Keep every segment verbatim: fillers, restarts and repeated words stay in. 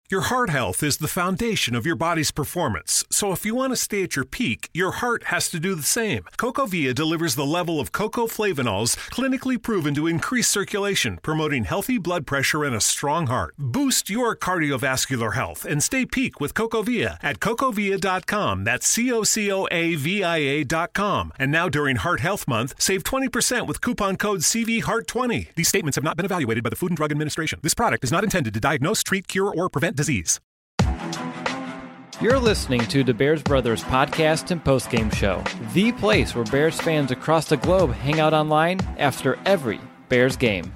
Your heart health is the foundation of your body's performance, so if you want to stay at your peak, your heart has to do the same. CocoVia delivers the level of cocoa flavanols clinically proven to increase circulation, promoting healthy blood pressure and a strong heart. Boost your cardiovascular health and stay peak with CocoVia at cocovia dot com. That's C O C O A V I A dot com. And now during Heart Health Month, save twenty percent with coupon code C V Heart twenty. These statements have not been evaluated by the Food and Drug Administration. This product is not intended to diagnose, treat, cure, or prevent disease. You're listening to the Bears Brothers podcast and postgame show, the place where Bears fans across the globe hang out online after every Bears game.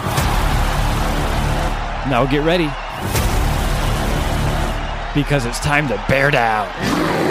Now get ready, because it's time to bear down.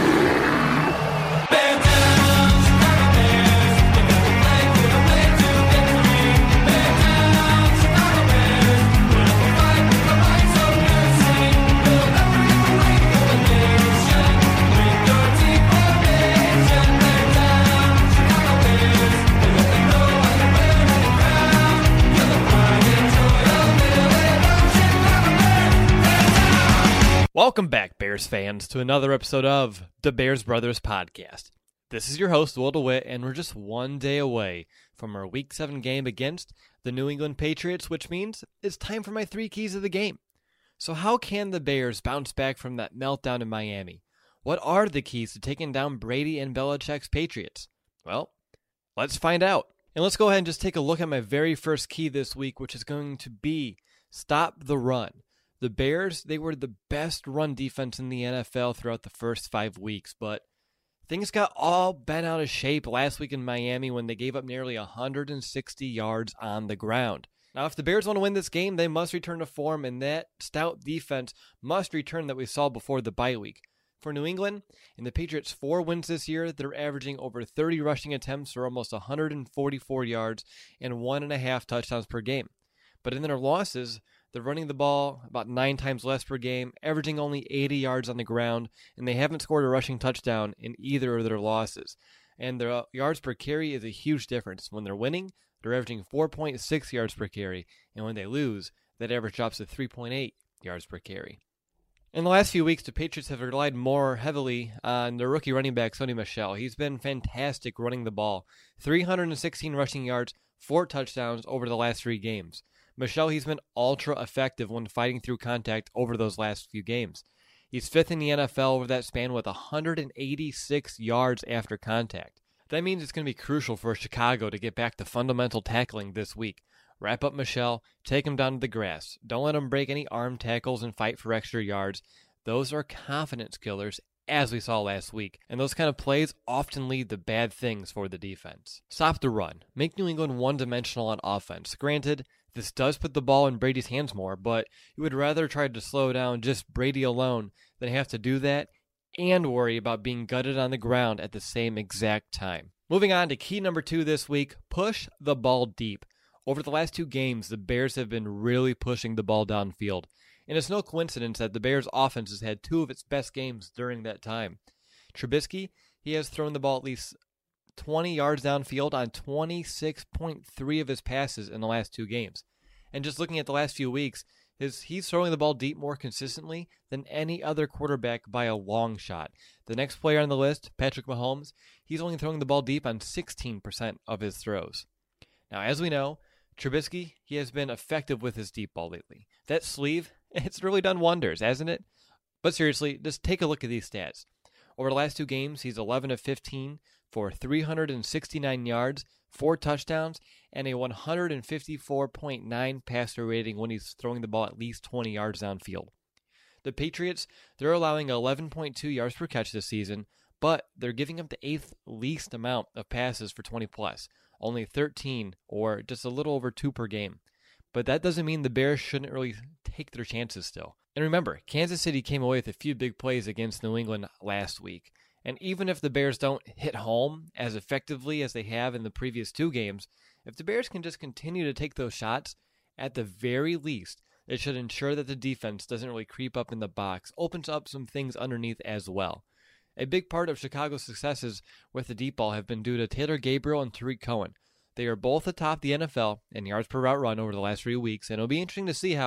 Welcome back, Bears fans, to another episode of the Bears Brothers podcast. This is your host, Will DeWitt, and we're just one day away from our Week seven game against the New England Patriots, which means it's time for my three keys of the game. So how can the Bears bounce back from that meltdown in Miami? What are the keys to taking down Brady and Belichick's Patriots? Well, let's find out. And let's go ahead and just take a look at my very first key this week, which is going to be stop the run. The Bears, they were the best run defense in the N F L throughout the first five weeks, but things got all bent out of shape last week in Miami when they gave up nearly one hundred sixty yards on the ground. Now, if the Bears want to win this game, they must return to form, and that stout defense must return that we saw before the bye week. For New England, in the Patriots' four wins this year, they're averaging over thirty rushing attempts for almost one hundred forty-four yards and one and a half touchdowns per game. But in their losses, they're running the ball about nine times less per game, averaging only eighty yards on the ground, and they haven't scored a rushing touchdown in either of their losses. And their yards per carry is a huge difference. When they're winning, they're averaging four point six yards per carry, and when they lose, that average drops to three point eight yards per carry. In the last few weeks, the Patriots have relied more heavily on their rookie running back, Sony Michel. He's been fantastic running the ball. three hundred sixteen rushing yards, four touchdowns over the last three games. Michel, he's been ultra effective when fighting through contact over those last few games. He's fifth in the N F L over that span with one hundred eighty-six yards after contact. That means it's going to be crucial for Chicago to get back to fundamental tackling this week. Wrap up Michel, take him down to the grass. Don't let him break any arm tackles and fight for extra yards. Those are confidence killers, as we saw last week, and those kind of plays often lead to bad things for the defense. Stop the run. Make New England one-dimensional on offense. Granted, this does put the ball in Brady's hands more, but you would rather try to slow down just Brady alone than have to do that and worry about being gutted on the ground at the same exact time. Moving on to key number two this week, push the ball deep. Over the last two games, the Bears have been really pushing the ball downfield, and it's no coincidence that the Bears' offense has had two of its best games during that time. Trubisky, he has thrown the ball at least twenty yards downfield on twenty-six point three of his passes in the last two games. And just looking at the last few weeks, his, he's throwing the ball deep more consistently than any other quarterback by a long shot. The next player on the list, Patrick Mahomes, he's only throwing the ball deep on sixteen percent of his throws. Now, as we know, Trubisky, he has been effective with his deep ball lately. That sleeve, it's really done wonders, hasn't it? But seriously, just take a look at these stats. Over the last two games, he's eleven of fifteen for three hundred sixty-nine yards, four touchdowns, and a one hundred fifty-four point nine passer rating when he's throwing the ball at least twenty yards downfield. The Patriots, they're allowing eleven point two yards per catch this season, but they're giving up the eighth least amount of passes for twenty plus, only thirteen, or just a little over two per game. But that doesn't mean the Bears shouldn't really take their chances still. And remember, Kansas City came away with a few big plays against New England last week. And even if the Bears don't hit home as effectively as they have in the previous two games, if the Bears can just continue to take those shots, at the very least, it should ensure that the defense doesn't really creep up in the box, opens up some things underneath as well. A big part of Chicago's successes with the deep ball have been due to Taylor Gabriel and Tariq Cohen. They are both atop the N F L in yards per route run over the last three weeks, and it'll be interesting to see how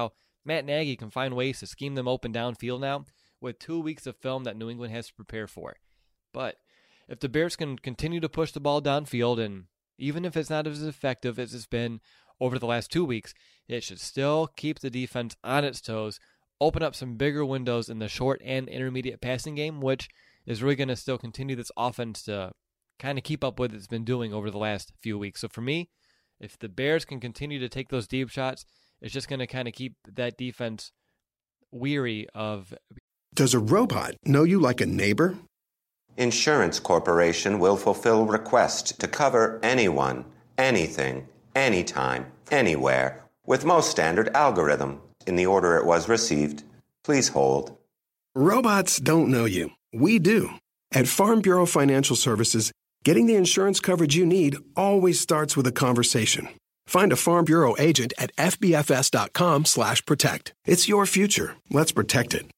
Matt Nagy can find ways to scheme them open downfield now with two weeks of film that New England has to prepare for. But if the Bears can continue to push the ball downfield, and even if it's not as effective as it's been over the last two weeks, it should still keep the defense on its toes, open up some bigger windows in the short and intermediate passing game, which is really going to still continue this offense to kind of keep up with what it's been doing over the last few weeks. So for me, if the Bears can continue to take those deep shots, it's just going to kind of keep that defense weary of... Does a robot know you like a neighbor? Insurance Corporation will fulfill requests to cover anyone, anything, anytime, anywhere, with most standard algorithm in the order it was received. Please hold. Robots don't know you. We do. At Farm Bureau Financial Services, getting the insurance coverage you need always starts with a conversation. Find a Farm Bureau agent at fbfs.com slash protect. It's your future. Let's protect it.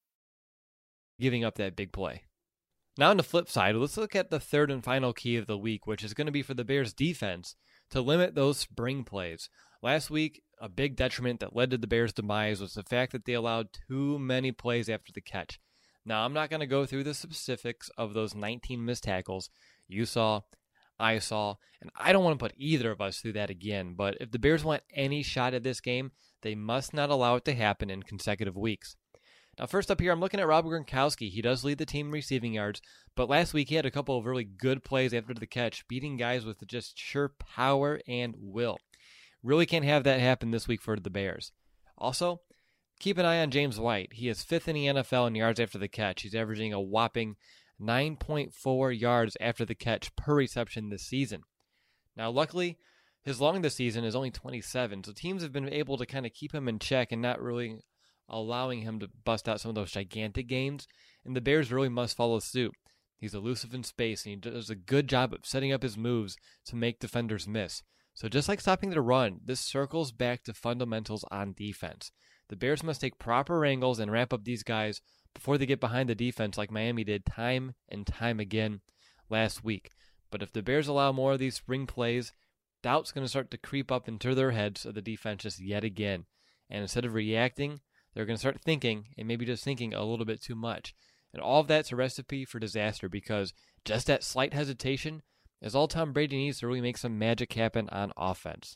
Giving up that big play. Now on the flip side, let's look at the third and final key of the week, which is going to be for the Bears defense to limit those spring plays. Last week, a big detriment that led to the Bears' demise was the fact that they allowed too many plays after the catch. Now, I'm not going to go through the specifics of those nineteen missed tackles you saw, I saw, and I don't want to put either of us through that again, but if the Bears want any shot at this game, they must not allow it to happen in consecutive weeks. Now, first up here, I'm looking at Rob Gronkowski. He does lead the team in receiving yards, but last week he had a couple of really good plays after the catch, beating guys with just sheer power and will. Really can't have that happen this week for the Bears. Also, keep an eye on James White. He is fifth in the N F L in yards after the catch. He's averaging a whopping nine point four yards after the catch per reception this season. Now, luckily, his long this season is only twenty-seven, so teams have been able to kind of keep him in check and not really allowing him to bust out some of those gigantic gains, and the Bears really must follow suit. He's elusive in space, and he does a good job of setting up his moves to make defenders miss. So just like stopping the run, this circles back to fundamentals on defense. The Bears must take proper angles and ramp up these guys before they get behind the defense like Miami did time and time again last week. But if the Bears allow more of these spring plays, doubt's going to start to creep up into their heads of the defense just yet again. And instead of reacting, they're going to start thinking, and maybe just thinking a little bit too much. And all of that's a recipe for disaster, because just that slight hesitation is all Tom Brady needs to really make some magic happen on offense.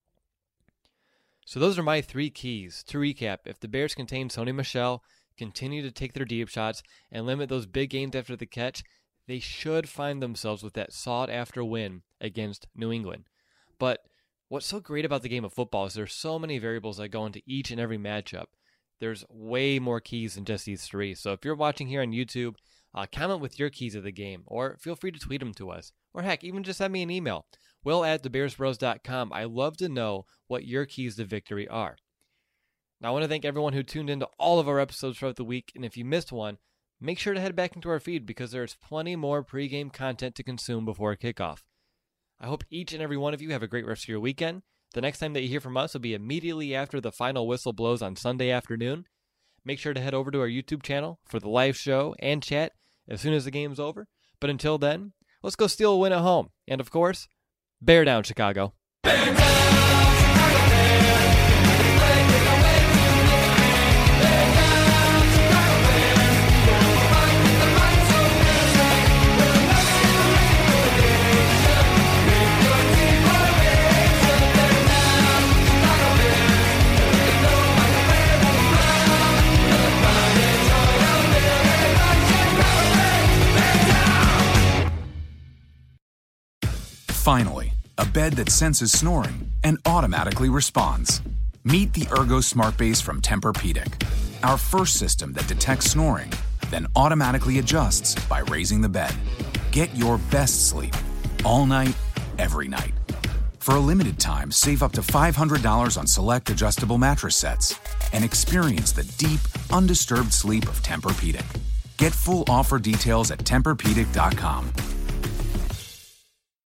So those are my three keys. To recap, if the Bears contain Sony Michel, continue to take their deep shots, and limit those big gains after the catch, they should find themselves with that sought-after win against New England. But what's so great about the game of football is there's so many variables that go into each and every matchup. There's way more keys than just these three. So if you're watching here on YouTube, uh, comment with your keys of the game, or feel free to tweet them to us. Or heck, even just send me an email, will at the bears bros dot com. I love to know what your keys to victory are. Now, I want to thank everyone who tuned into all of our episodes throughout the week, and if you missed one, make sure to head back into our feed because there's plenty more pregame content to consume before kickoff. I hope each and every one of you have a great rest of your weekend. The next time that you hear from us will be immediately after the final whistle blows on Sunday afternoon. Make sure to head over to our YouTube channel for the live show and chat as soon as the game's over. But until then, let's go steal a win at home. And of course, bear down, Chicago. Bear down, Chicago Bears. Play with the way to win. Bear down, Chicago Bears. We'll fight with the might so fierce. We'll never relegation. With your team formation. Bear down, Chicago Bears. They know how to wear the crown. The pride and joy of living like Chicago Bears. Bear down. Finally, a bed that senses snoring and automatically responds. Meet the Ergo Smart Base from Tempur-Pedic, our first system that detects snoring, then automatically adjusts by raising the bed. Get your best sleep, all night, every night. For a limited time, save up to five hundred dollars on select adjustable mattress sets and experience the deep, undisturbed sleep of Tempur-Pedic. Get full offer details at Tempur Pedic dot com.